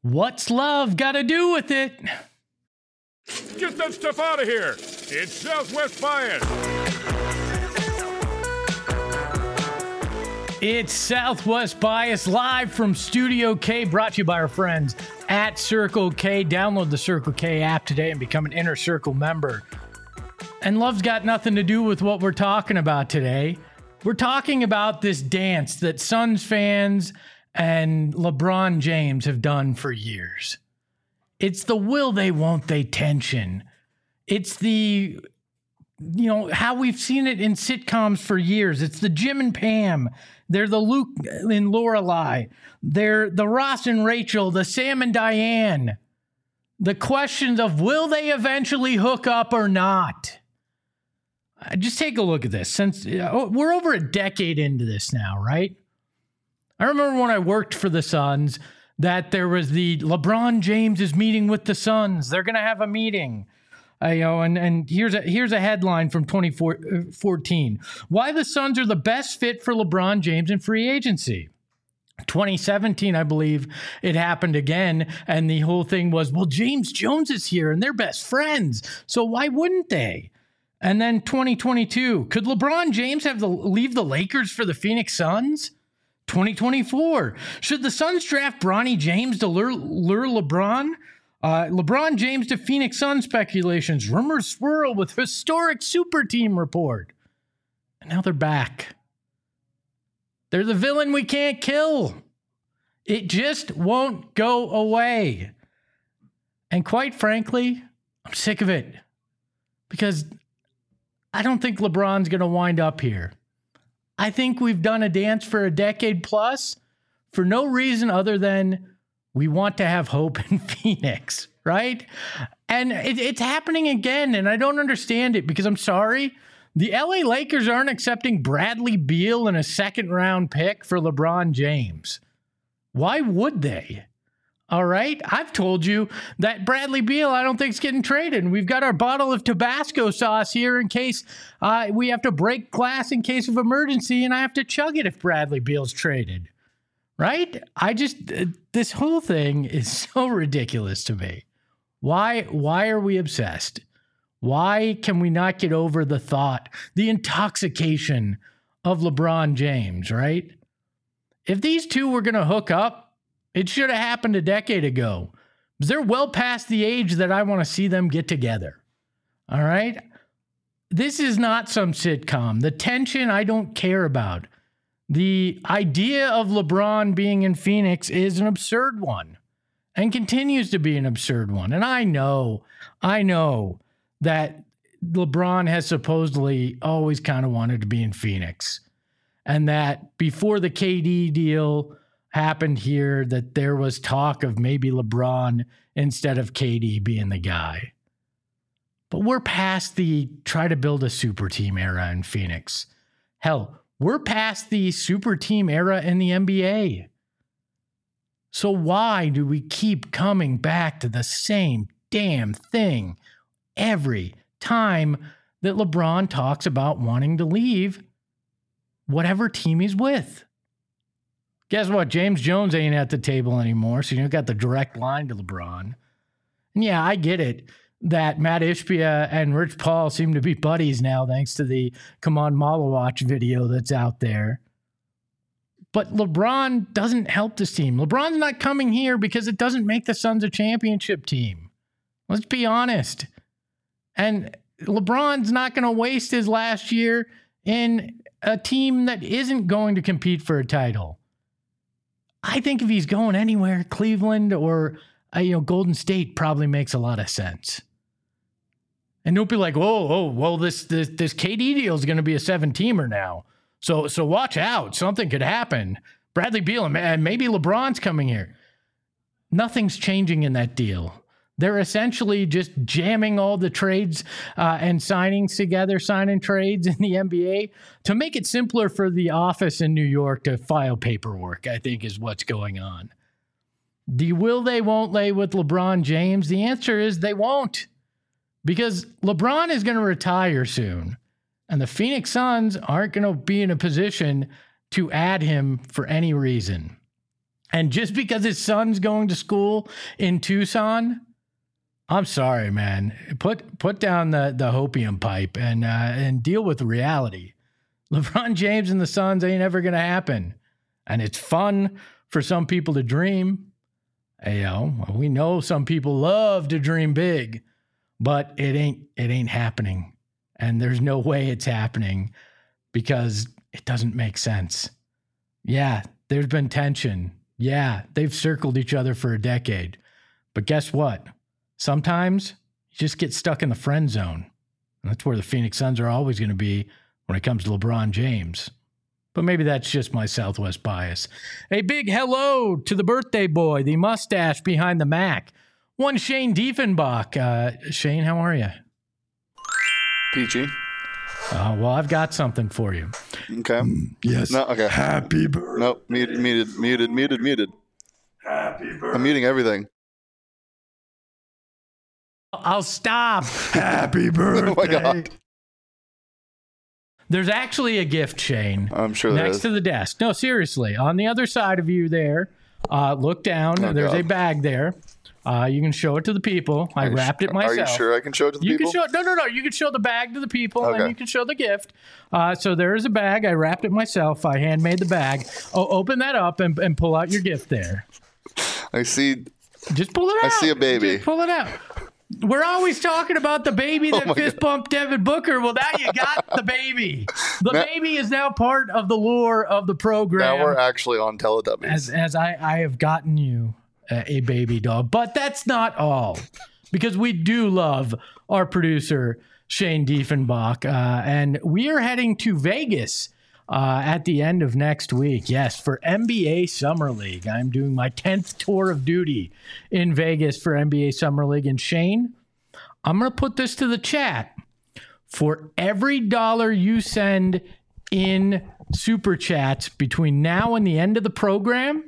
What's love got to do with it? Get that stuff out of here. It's Southwest Bias. It's Southwest Bias live from Studio K, brought to you by our friends at Circle K. Download the Circle K app today and become an Inner Circle member. And love's got nothing to do with what we're talking about today. We're talking about this dance that Suns fans and LeBron James have done for years. It's the will they, won't they tension. It's the, how we've seen it in sitcoms for years. It's the Jim and Pam. They're the Luke and Lorelai. They're the Ross and Rachel, the Sam and Diane. The questions of will they eventually hook up or not? Just take a look at this. Since we're over a decade into this now, right? I remember when I worked for the Suns that there was the LeBron James is meeting with the Suns. They're going to have a meeting. And here's a headline from 2014. Why the Suns are the best fit for LeBron James in free agency. 2017, I believe it happened again. And the whole thing was, well, James Jones is here and they're best friends. So why wouldn't they? And then 2022, could LeBron James leave the Lakers for the Phoenix Suns? 2024, should the Suns draft Bronny James to lure LeBron? LeBron James to Phoenix Suns speculations. Rumors swirl with historic super team report. And now they're back. They're the villain we can't kill. It just won't go away. And quite frankly, I'm sick of it. Because I don't think LeBron's going to wind up here. I think we've done a dance for a decade plus for no reason other than we want to have hope in Phoenix, right? And it's happening again, and I don't understand it because I'm sorry. The LA Lakers aren't accepting Bradley Beal and a second-round pick for LeBron James. Why would they? All right, I've told you that Bradley Beal I don't think is getting traded. And we've got our bottle of Tabasco sauce here in case we have to break glass in case of emergency and I have to chug it if Bradley Beal's traded. Right? This whole thing is so ridiculous to me. Why are we obsessed? Why can we not get over the thought, the intoxication of LeBron James, right? If these two were going to hook up, it should have happened a decade ago. They're well past the age that I want to see them get together. All right? This is not some sitcom. The tension I don't care about. The idea of LeBron being in Phoenix is an absurd one and continues to be an absurd one. And I know that LeBron has supposedly always kind of wanted to be in Phoenix. And that before the KD deal happened here, that there was talk of maybe LeBron instead of KD being the guy. But we're past the try to build a super team era in Phoenix. Hell, we're past the super team era in the NBA. So why do we keep coming back to the same damn thing every time that LeBron talks about wanting to leave whatever team he's with? Guess what? James Jones ain't at the table anymore, so you got the direct line to LeBron. And yeah, I get it that Matt Ishbia and Rich Paul seem to be buddies now thanks to the Come On Malawatch video that's out there. But LeBron doesn't help this team. LeBron's not coming here because it doesn't make the Suns a championship team. Let's be honest. And LeBron's not going to waste his last year in a team that isn't going to compete for a title. I think if he's going anywhere, Cleveland or Golden State probably makes a lot of sense. And don't be like, well, this KD deal is going to be a 7-teamer now. So watch out. Something could happen. Bradley Beal and maybe LeBron's coming here. Nothing's changing in that deal. They're essentially just jamming all the trades and signings together, signing trades in the NBA to make it simpler for the office in New York to file paperwork, I think is what's going on. The will they, won't they with LeBron James? The answer is they won't. Because LeBron is going to retire soon. And the Phoenix Suns aren't going to be in a position to add him for any reason. And just because his son's going to school in Tucson, I'm sorry, man. Put down the hopium pipe and deal with reality. LeBron James and the Suns ain't ever going to happen. And it's fun for some people to dream. We know some people love to dream big, but it ain't happening. And there's no way it's happening because it doesn't make sense. Yeah, there's been tension. Yeah, they've circled each other for a decade. But guess what? Sometimes you just get stuck in the friend zone. And that's where the Phoenix Suns are always going to be when it comes to LeBron James. But maybe that's just my Southwest bias. A big hello to the birthday boy, the mustache behind the Mac, one Shane Diefenbach. Shane, how are you? Peachy. Well, I've got something for you. Okay. Yes. No, okay. Happy birthday. Nope. Muted. Happy birthday. I'm muting everything. I'll stop. Happy birthday. Oh my God. There's actually a gift, Shane. I'm sure there next is. to the desk. No, seriously. On the other side of you there, look down. Oh, There's God. a bag there. You can show it to the people. I wrapped it myself. Are you sure I can show it to the You people? can show no. You can show the bag to the people, Okay. and you can show the gift. So there is a bag. I wrapped it myself. I handmade the bag. Oh, open that up and pull out your gift there. I see. Just pull it out. I see a baby. Just pull it out. We're always talking about the baby that my fist bumped Devin Booker. Well, now you got the baby. The baby is now part of the lore of the program. Now we're actually on Teletubbies. As I have gotten you a baby dog. But that's not all, because we do love our producer, Shane Diefenbach. And we are heading to Vegas at the end of next week. Yes, for NBA Summer League. I'm doing my 10th tour of duty in Vegas for NBA Summer League. And Shane, I'm going to put this to the chat. For every dollar you send in super chats between now and the end of the program,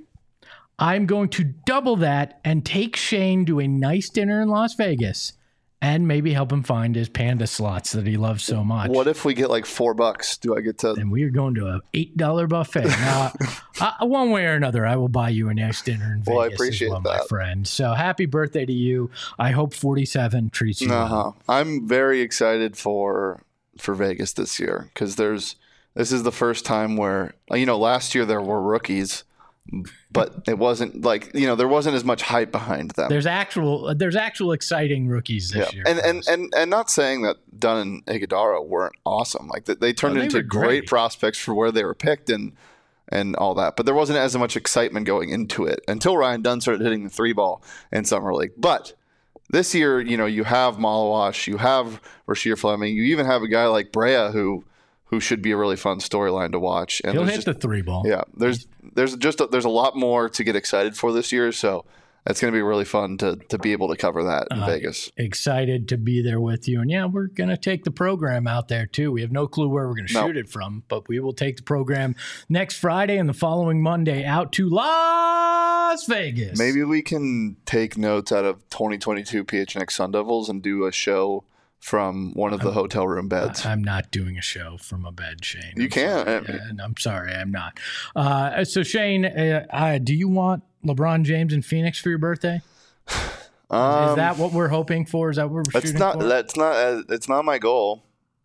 I'm going to double that and take Shane to a nice dinner in Las Vegas and maybe help him find his panda slots that he loves so much. What if we get like $4? Do I get to? And we are going to an $8 buffet. Now, one way or another, I will buy you a nice dinner in Vegas. Well, I appreciate as well, my that. friend. So happy birthday to you. I hope 47 treats you well. I'm very excited for Vegas this year because this is the first time where last year there were rookies. But it wasn't like, there wasn't as much hype behind them. There's actual exciting rookies this year. And not saying that Dunn and Iguodala weren't awesome. Like they turned into great prospects for where they were picked and all that. But there wasn't as much excitement going into it until Ryan Dunn started hitting the 3-ball in Summer League. But this year, you have Malawash, you have Rasheer Fleming, you even have a guy like Brea who should be a really fun storyline to watch. And he'll hit the 3-ball. Yeah, there's a lot more to get excited for this year, so it's going to be really fun to be able to cover that in Vegas. Excited to be there with you. And yeah, we're going to take the program out there too. We have no clue where we're going to shoot it from, but we will take the program next Friday and the following Monday out to Las Vegas. Maybe we can take notes out of 2022 PHNX Sun Devils and do a show from one of the hotel room beds. I'm not doing a show from a bed, Shane. You can't. I'm sorry, I'm not. So Shane, do you want LeBron James in Phoenix for your birthday? Is that what we're hoping for? Is that what we're shooting for? It's not my goal.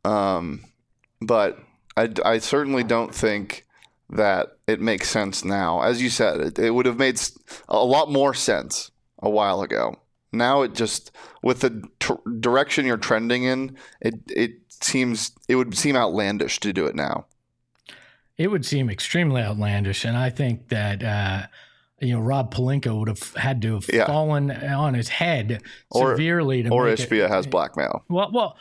But I certainly don't think that it makes sense now. As you said, it would have made a lot more sense a while ago. Now it just, with the direction you're trending in, it would seem outlandish to do it now. It would seem extremely outlandish, and I think that Rob Pelinka would have had to have fallen on his head severely or Ishbia has blackmail. Well,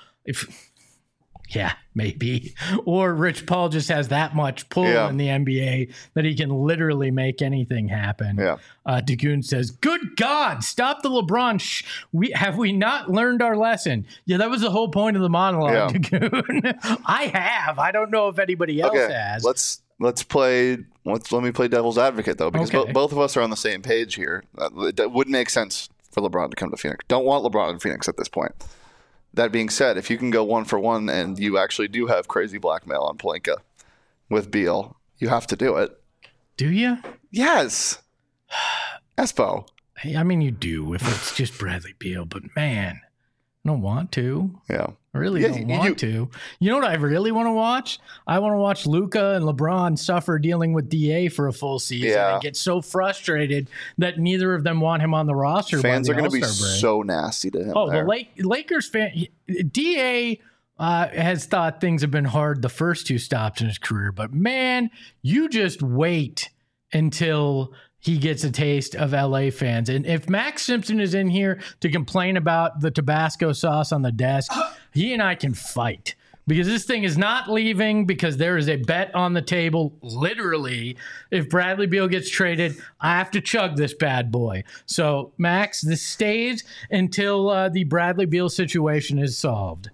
maybe. Or Rich Paul just has that much pull in the NBA that he can literally make anything happen. Yeah. Dagoon says, "Good God, stop the LeBron. Have we not learned our lesson?" Yeah, that was the whole point of the monologue, Dagoon. I have. I don't know if anybody else has. Let me play devil's advocate though, because both of us are on the same page here. That would make sense for LeBron to come to Phoenix. Don't want LeBron in Phoenix at this point. That being said, if you can go 1-for-1 and you actually do have crazy blackmail on Pelinka with Beal, you have to do it. Do you? Yes. Espo. I mean, you do if it's just Bradley Beal, but man, I don't want to. Yeah. I really don't want to. You know what I really want to watch? I want to watch Luka and LeBron suffer dealing with DA for a full season and get so frustrated that neither of them want him on the roster. Fans are going to be so nasty to him. Oh, there. The Lakers fan, DA has thought things have been hard the first 2 stops in his career, but man, you just wait until he gets a taste of LA fans. And if Max Simpson is in here to complain about the Tabasco sauce on the desk, he and I can fight, because this thing is not leaving, because there is a bet on the table. Literally, if Bradley Beal gets traded, I have to chug this bad boy. So Max, this stays until the Bradley Beal situation is solved.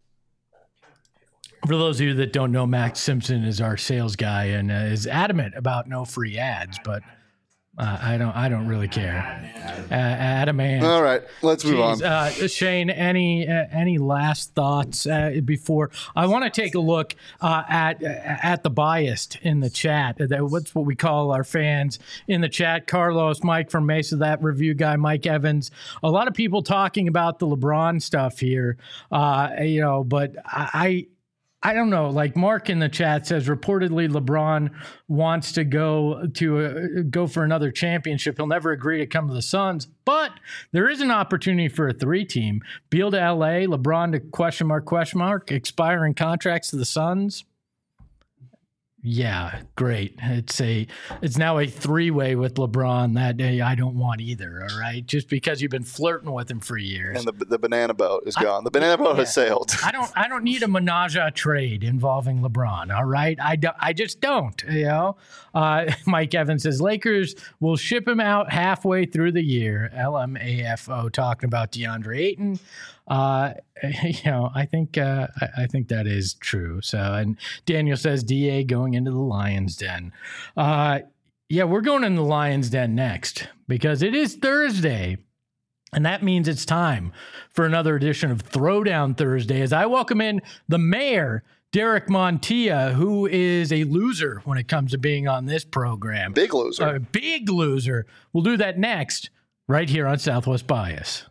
For those of you that don't know, Max Simpson is our sales guy and is adamant about no free ads, but I don't really care. Adam and all right, let's move on. Shane, any last thoughts before I want to take a look at the biased in the chat? What's what we call our fans in the chat? Carlos, Mike from Mesa, that review guy, Mike Evans. A lot of people talking about the LeBron stuff here, but I don't know. Like Mark in the chat says, reportedly LeBron wants to go for another championship. He'll never agree to come to the Suns, but there is an opportunity for a 3-team. Beal to LA, LeBron to question mark, expiring contracts to the Suns. Yeah, great. It's now a 3-way with LeBron that I don't want either. All right, just because you've been flirting with him for years. And the banana boat is gone. The banana boat has sailed. I don't need a menage a trade involving LeBron. All right, I just don't. Mike Evans says Lakers will ship him out halfway through the year. LMAFO talking about DeAndre Ayton. I think that is true. So, and Daniel says DA going into the Lions Den. We're going in the Lions Den next because it is Thursday, and that means it's time for another edition of Throwdown Thursday as I welcome in the mayor, Derek Montilla, who is a loser when it comes to being on this program. Big loser. Big loser. We'll do that next right here on Southwest Bias.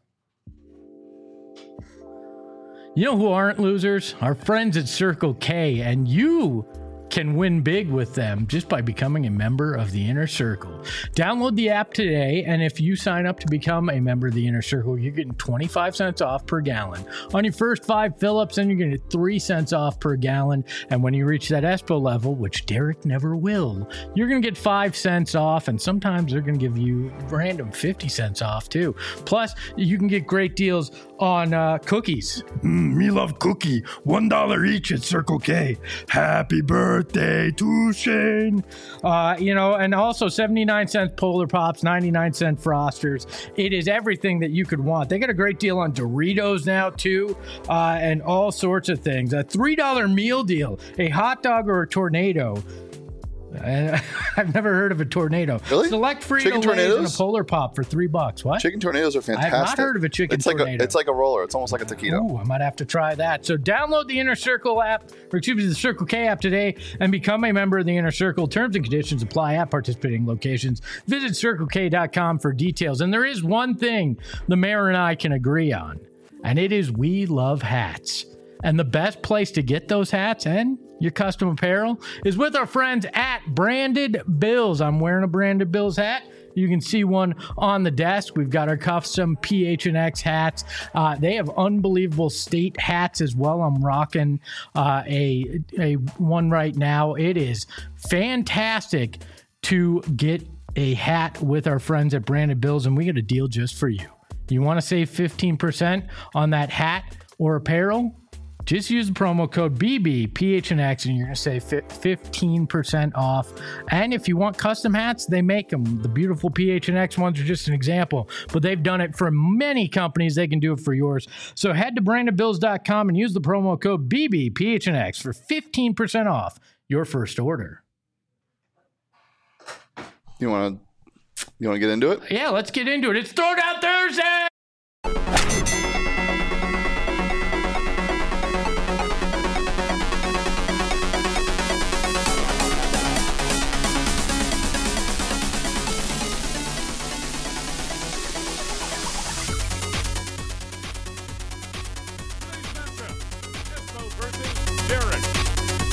You know who aren't losers? Our friends at Circle K, and you can win big with them just by becoming a member of the Inner Circle. Download the app today, and if you sign up to become a member of the Inner Circle, you're getting 25 cents off per gallon. On your first 5 fill-ups, then you're going to get 3 cents off per gallon, and when you reach that Espo level, which Derek never will, you're going to get 5 cents off, and sometimes they're going to give you random 50 cents off too. Plus, you can get great deals on cookies. Me love cookie. $1 each at Circle K. Happy birthday to Shane. And also 79 cents Polar Pops, 99 cent Frosters. It is everything that you could want. They got a great deal on Doritos now too, and all sorts of things. A $3 meal deal, a hot dog or a tornado. I've never heard of a tornado. Really? Select Frito-Lays and a Polar Pop for $3. What? Chicken tornadoes are fantastic. I have not heard of a chicken tornado. It's like a roller. It's almost like a taquito. Ooh, I might have to try that. So download the Inner Circle app, the Circle K app today, and become a member of the Inner Circle. Terms and conditions apply at participating locations. Visit CircleK.com for details. And there is one thing the mayor and I can agree on, and it is we love hats. And the best place to get those hats and your custom apparel is with our friends at Branded Bills. I'm wearing a Branded Bills hat. You can see one on the desk. We've got our custom PHNX hats. They have unbelievable state hats as well. I'm rocking a one right now. It is fantastic to get a hat with our friends at Branded Bills, and we got a deal just for you. You want to save 15% on that hat or apparel? Just use the promo code BBPHNX and you're going to save 15% off. And if you want custom hats, they make them. The beautiful PHNX ones are just an example, but they've done it for many companies. They can do it for yours. So head to brandedbills.com and use the promo code BBPHNX for 15% off your first order. You want to get into it? Yeah, let's get into it. It's Throwdown Thursday!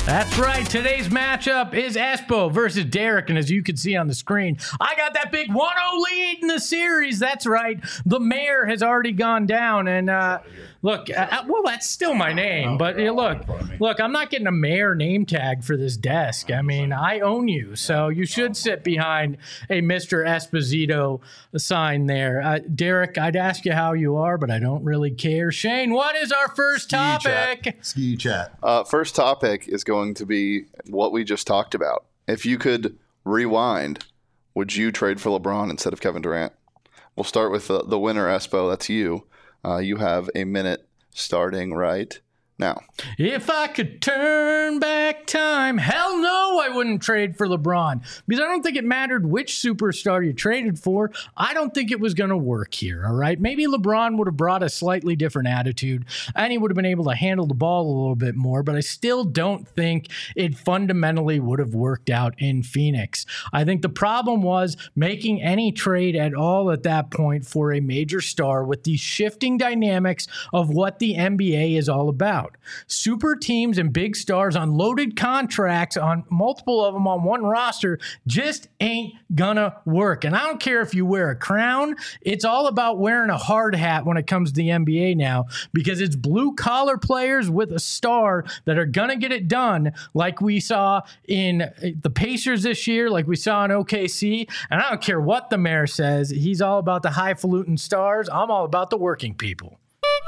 That's right. Today's matchup is Espo versus Derek. And as you can see on the screen, I got that big 1-0 lead in the series. That's right. The mayor has already gone down. And look, well, that's still my name. But look, I'm not getting a mayor name tag for this desk. I mean, I own you. So you should sit behind a Mr. Esposito sign there. Derek, I'd ask you how you are, but I don't really care. Shane, what is our first topic? Ski chat. First topic is going to be what we just talked about. If you could rewind, would you trade for LeBron instead of Kevin Durant? We'll start with the winner, Espo. That's you. You have a minute starting right now. If I could turn back time, hell no, I wouldn't trade for LeBron, because I don't think it mattered which superstar you traded for. I don't think it was going to work here, all right? Maybe LeBron would have brought a slightly different attitude, and he would have been able to handle the ball a little bit more, but I still don't think it fundamentally would have worked out in Phoenix. I think the problem was making any trade at all at that point for a major star with the shifting dynamics of what the NBA is all about. Super teams and big stars on loaded contracts, on multiple of them on one roster, just ain't gonna work. And I don't care if you wear a crown. It's all about wearing a hard hat when it comes to the NBA now, because it's blue collar players with a star that are gonna get it done, like we saw in the Pacers this year, like we saw in OKC. And I don't care what the mayor says. He's all about the highfalutin stars. I'm all about the working people.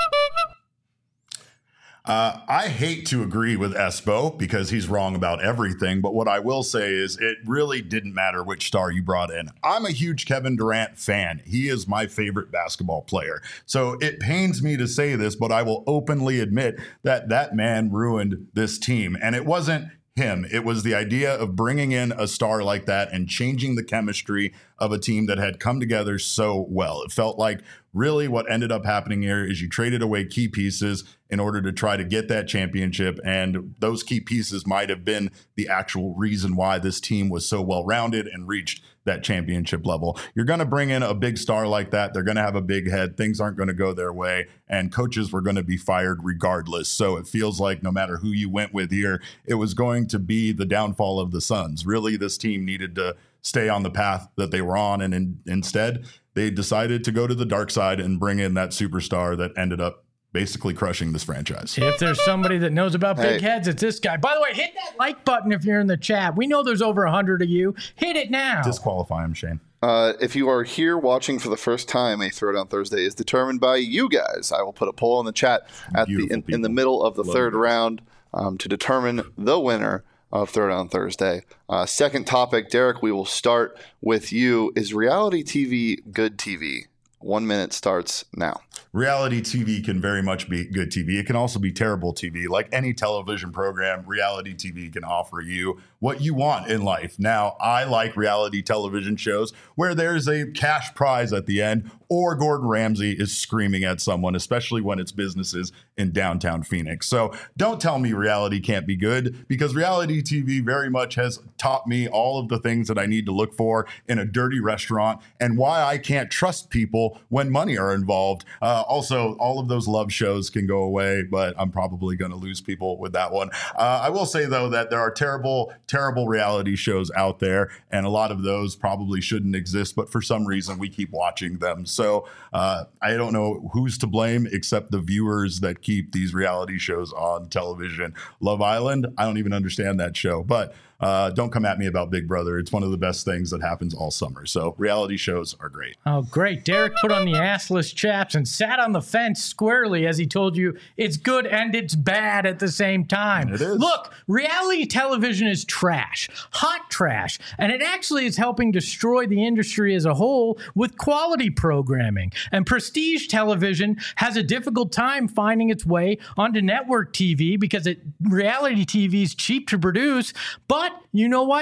I hate to agree with Espo because he's wrong about everything, but what I will say is it really didn't matter which star you brought in. I'm a huge Kevin Durant fan. He is my favorite basketball player. So it pains me to say this, but I will openly admit that that man ruined this team. And it wasn't him. It was the idea of bringing in a star like that and changing the chemistry of a team that had come together so well. It felt like really what ended up happening here is you traded away key pieces in order to try to get that championship. And those key pieces might have been the actual reason why this team was so well-rounded and reached that championship level. You're going to bring in a big star like that. They're going to have a big head. Things aren't going to go their way. And coaches were going to be fired regardless. So it feels like no matter who you went with here, it was going to be the downfall of the Suns. Really, this team needed to stay on the path that they were on. And instead, they decided to go to the dark side and bring in that superstar that ended up basically crushing this franchise. If there's somebody that knows about big heads, it's this guy. By the way, hit that like button if you're in the chat. We know there's over 100 of you. Hit it now. Disqualify him, Shane. If you are here watching for the first time, a Throwdown Thursday is determined by you guys. I will put a poll in the chat at in the middle of the third round to determine the winner of Throwdown Thursday. Second topic, Derek, we will start with you. Is reality TV good TV? 1 minute starts now. Reality TV can very much be good TV. It can also be terrible TV. Like any television program, reality TV can offer you what you want in life. Now, I like reality television shows where there's a cash prize at the end or Gordon Ramsay is screaming at someone, especially when it's businesses in downtown Phoenix. So don't tell me reality can't be good, because reality TV very much has taught me all of the things that I need to look for in a dirty restaurant and why I can't trust people when money are involved. Also, all of those love shows can go away, but I'm probably going to lose people with that one. I will say, though, that there are terrible reality shows out there, and a lot of those probably shouldn't exist, but for some reason we keep watching them. So I don't know who's to blame except the viewers that keep these reality shows on television. Love Island, I don't even understand that show, but don't come at me about Big Brother. It's one of the best things that happens all summer. So reality shows are great. Oh, great. Derek put on the assless chaps and sat on the fence squarely as he told you it's good and it's bad at the same time. It is. Look, reality television is trash, hot trash, and it actually is helping destroy the industry as a whole with quality programming. And prestige television has a difficult time finding its way onto network TV because reality TV is cheap to produce, but you know what?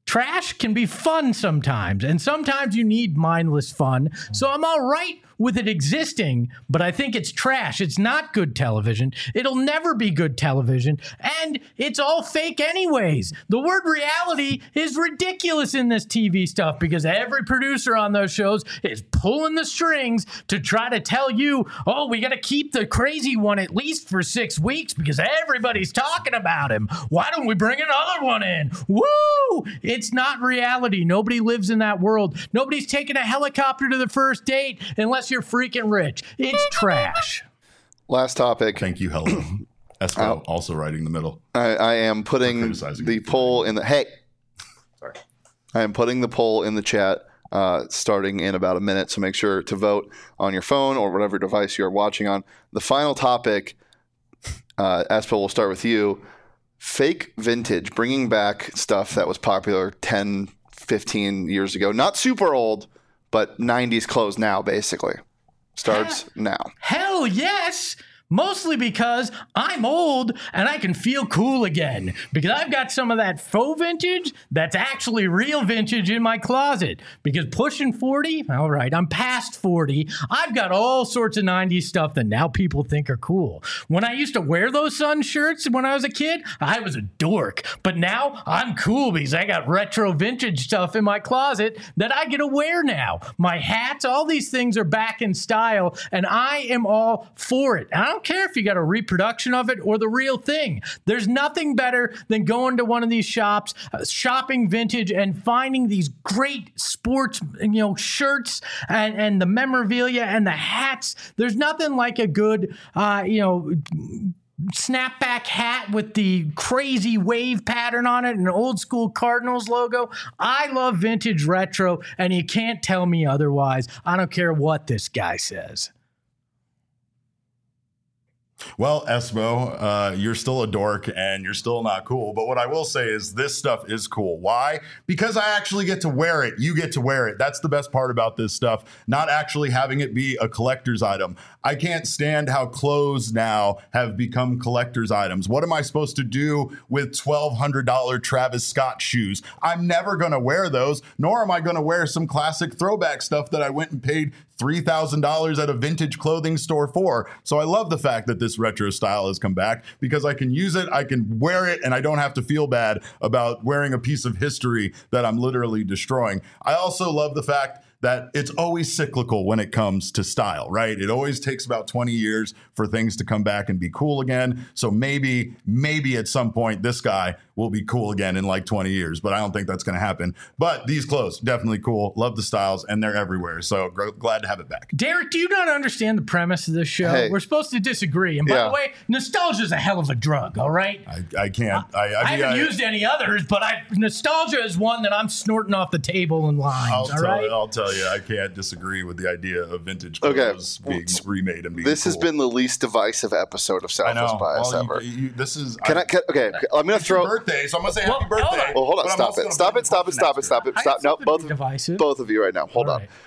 trash can be fun sometimes, and sometimes you need mindless fun. So I'm all right with it existing, but I think it's trash. It's not good television. It'll never be good television, and it's all fake anyways. The word reality is ridiculous in this TV stuff because every producer on those shows is pulling the strings to try to tell you, oh, we got to keep the crazy one at least for 6 weeks because everybody's talking about him. Why don't we bring another one in? Woo! It's not reality. Nobody lives in that world. Nobody's taking a helicopter to the first date unless you're freaking rich. It's trash. Last topic. Thank you, Hello. Espo also writing the middle. I am putting the poll in the... Hey! Sorry. I am putting the poll in the chat starting in about a minute, so make sure to vote on your phone or whatever device you're watching on. The final topic, Espo, we'll start with you. Fake vintage, bringing back stuff that was popular 10, 15 years ago. Not super old, but 90s clothes now, basically. Starts now. Hell yes! Mostly because I'm old and I can feel cool again. Because I've got some of that faux vintage that's actually real vintage in my closet. Because pushing 40, all right, I'm past 40. I've got all sorts of 90s stuff that now people think are cool. When I used to wear those Sun shirts when I was a kid, I was a dork. But now I'm cool because I got retro vintage stuff in my closet that I get to wear now. My hats, all these things are back in style and I am all for it. I don't care if you got a reproduction of it or the real thing. There's nothing better than going to one of these shops, shopping vintage, and finding these great sports, shirts and the memorabilia and the hats. There's nothing like a good, snapback hat with the crazy wave pattern on it and an old school Cardinals logo. I love vintage retro, and you can't tell me otherwise. I don't care what this guy says. Well, Espo, you're still a dork and you're still not cool. But what I will say is this stuff is cool. Why? Because I actually get to wear it. You get to wear it. That's the best part about this stuff, not actually having it be a collector's item. I can't stand how clothes now have become collector's items. What am I supposed to do with $1,200 Travis Scott shoes? I'm never going to wear those, nor am I going to wear some classic throwback stuff that I went and paid $3,000 at a vintage clothing store for. So I love the fact that this retro style has come back because I can use it, I can wear it, and I don't have to feel bad about wearing a piece of history that I'm literally destroying. I also love the fact that it's always cyclical when it comes to style, right? It always takes about 20 years for things to come back and be cool again. So maybe at some point this guy will be cool again in like 20 years, but I don't think that's going to happen. But these clothes, definitely cool. Love the styles, and they're everywhere. So glad to have it back. Derek, do you not understand the premise of this show? Hey. We're supposed to disagree. And by the way, nostalgia is a hell of a drug, all right? I can't. I haven't used any others, but nostalgia is one that I'm snorting off the table in lines, I'll tell you, I can't disagree with the idea of vintage clothes being remade and being This cool. has been the least divisive episode of Southwest Bias ever. This is... I'm going to throw... birthday, so I'm going to say happy birthday. Well, hold on. Stop it. No, both of you right now. Hold on.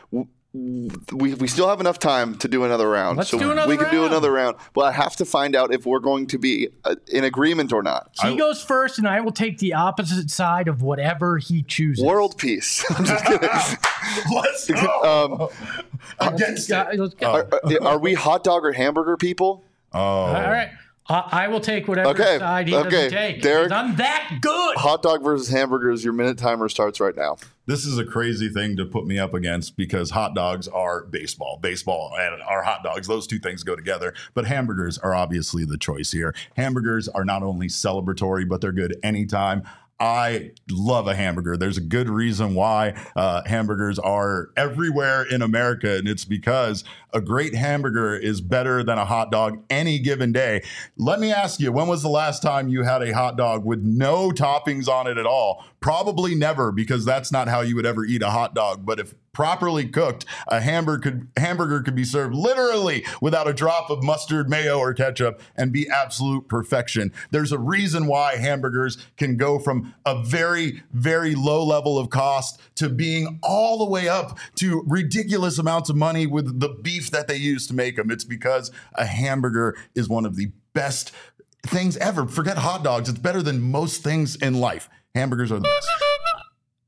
We still have enough time to do another round. Let's do another round. We can do another round. But I have to find out if we're going to be in agreement or not. He goes first, and I will take the opposite side of whatever he chooses. World peace. I'm just kidding. Let's go. Against it. Are we hot dog or hamburger people? Oh. All right. I will take whatever side he doesn't take. Derek, I'm that good. Hot dog versus hamburgers. Your minute timer starts right now. This is a crazy thing to put me up against because hot dogs are baseball. Baseball and our hot dogs, those two things go together. But hamburgers are obviously the choice here. Hamburgers are not only celebratory, but they're good anytime. I love a hamburger. There's a good reason why hamburgers are everywhere in America, and it's because a great hamburger is better than a hot dog any given day. Let me ask you, when was the last time you had a hot dog with no toppings on it at all? Probably never, because that's not how you would ever eat a hot dog. But if properly cooked, a hamburger could be served literally without a drop of mustard, mayo, or ketchup and be absolute perfection. There's a reason why hamburgers can go from a very, very low level of cost to being all the way up to ridiculous amounts of money with the beef that they use to make them. It's because a hamburger is one of the best things ever. Forget hot dogs. It's better than most things in life. Hamburgers are the best.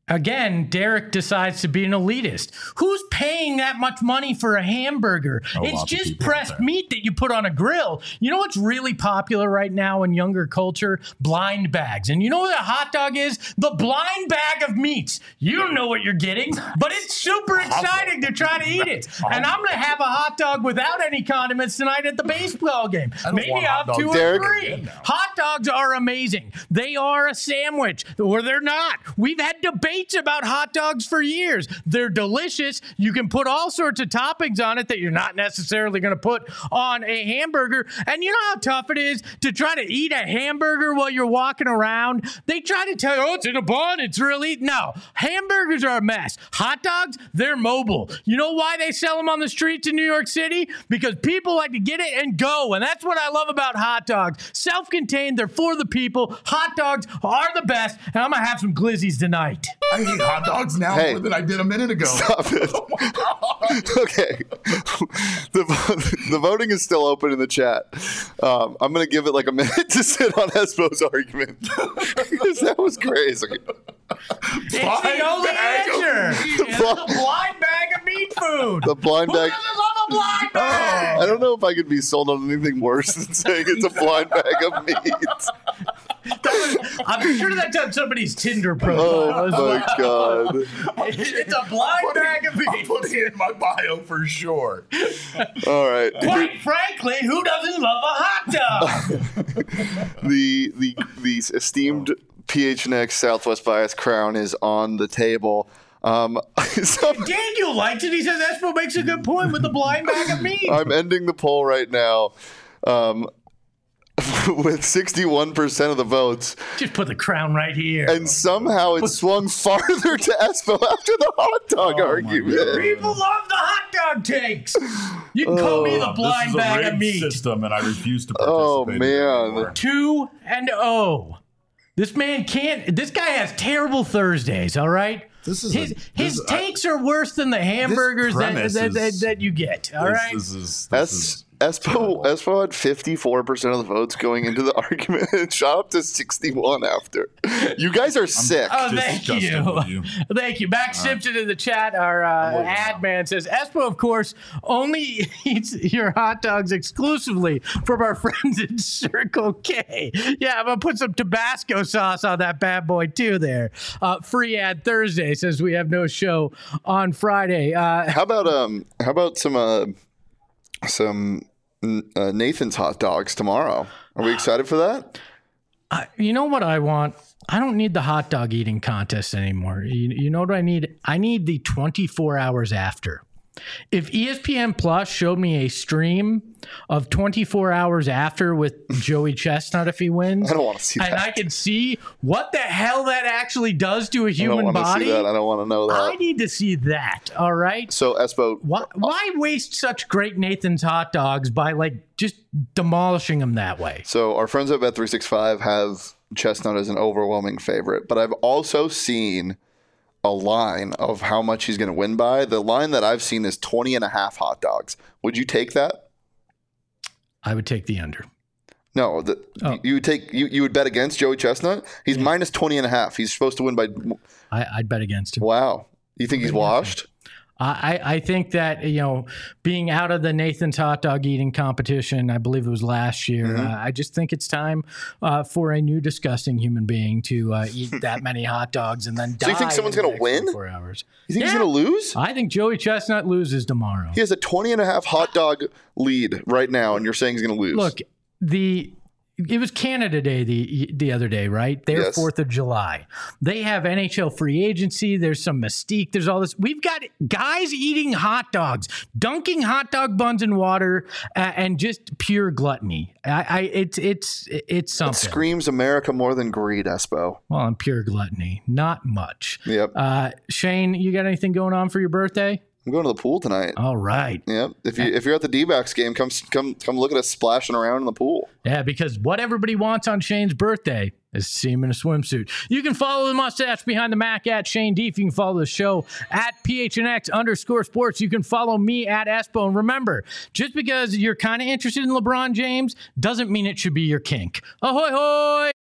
Again, Derek decides to be an elitist. Who's paying that much money for a hamburger? It's just pressed meat that you put on a grill. You know what's really popular right now in younger culture? Blind bags. And you know what a hot dog is? The blind bag of meats. You don't know what you're getting, but it's super exciting to try to eat it. And I'm going to have a hot dog without any condiments tonight at the baseball game. Maybe I'll have 2 or 3. Hot dogs are amazing. They are a sandwich, or they're not. We've had debates about hot dogs for years. They're delicious. You can put all sorts of toppings on it that you're not necessarily going to put on a hamburger. And you know how tough it is to try to eat a hamburger while you're walking around? They try to tell you, oh, it's in a bun. It's really... No. Hamburgers are a mess. Hot dogs, they're mobile. You know why they sell them on the streets in New York City? Because people like to get it and go. And that's what I love about hot dogs. Self-contained. They're for the people. Hot dogs are the best. And I'm going to have some glizzies tonight. I eat hot dogs now more than I did a minute ago. Stop it. Oh my God. Okay. The voting is still open in the chat. I'm going to give it like a minute to sit on Espo's argument. Because that was crazy. It's the only answer. It's the blind bag of meat food. The blind bag. Who doesn't love a blind bag? I don't know if I could be sold on anything worse than saying it's a blind bag of meat. I'm sure that's on somebody's Tinder profile. Oh my God. It's a blind bag of meat. I'm putting it in my bio for sure. All right. Quite frankly, who doesn't love a hot dog? The esteemed PHNX Southwest Bias crown is on the table. Daniel likes it. He says Espo makes a good point with the blind bag of meat. I'm ending the poll right now. With 61% of the votes. Just put the crown right here. And somehow it swung farther to Espo after the hot dog argument. People love the hot dog takes. You can call me the blind bag of meat. System, and I refuse to participate. Oh, man. 2-0. This man can't. This guy has terrible Thursdays, all right? His takes are worse than the hamburgers that you get, all right? Espo had 54% of the votes going into the argument and shot up to 61 after. You guys are sick. Oh, thank you. Thank you. Max Simpson in the chat, our ad man, says, Espo, of course, only eats your hot dogs exclusively from our friends at Circle K. Yeah, I'm going to put some Tabasco sauce on that bad boy, too, there. Free ad Thursday says we have no show on Friday. How about some Nathan's hot dogs tomorrow? Are we excited for that? You know what I want? I don't need the hot dog eating contest anymore. You know what I need? I need the 24 hours after. If ESPN Plus showed me a stream of 24 hours after with Joey Chestnut if he wins, I don't want to see that. And I can see what the hell that actually does to a human body. I don't want to know that. I need to see that. All right. So Espo, why waste such great Nathan's hot dogs by just demolishing them that way? So our friends at Bet365 have Chestnut as an overwhelming favorite, but I've also seen a line of how much he's going to win by. The line that I've seen is 20 and a half hot dogs. Would you take that? I would take the under. No, you would bet against Joey Chestnut? He's minus 20 and a half. He's supposed to win by... I'd bet against him. Wow. You think he's washed? I think that, being out of the Nathan's hot dog eating competition, I believe it was last year, I just think it's time for a new disgusting human being to eat that many hot dogs and then die. So you think someone's going to win? 4 hours. You think he's going to lose? I think Joey Chestnut loses tomorrow. He has a 20 and a half hot dog lead right now, and you're saying he's going to lose. Look, it was Canada Day the other day, right? Their 4th of July. They have NHL free agency. There's some mystique. There's all this. We've got guys eating hot dogs, dunking hot dog buns in water, and just pure gluttony. It's something. It screams America more than greed, Espo. Well, and pure gluttony. Not much. Yep. Shane, you got anything going on for your birthday? I'm going to the pool tonight. All right. Yep. If you're at the D-backs game, come look at us splashing around in the pool. Yeah, because what everybody wants on Shane's birthday is to see him in a swimsuit. You can follow the mustache behind the Mac at Shane Deef. You can follow the show at PHNX_sports. You can follow me at Espo. And remember, just because you're kind of interested in LeBron James doesn't mean it should be your kink. Ahoy, hoy!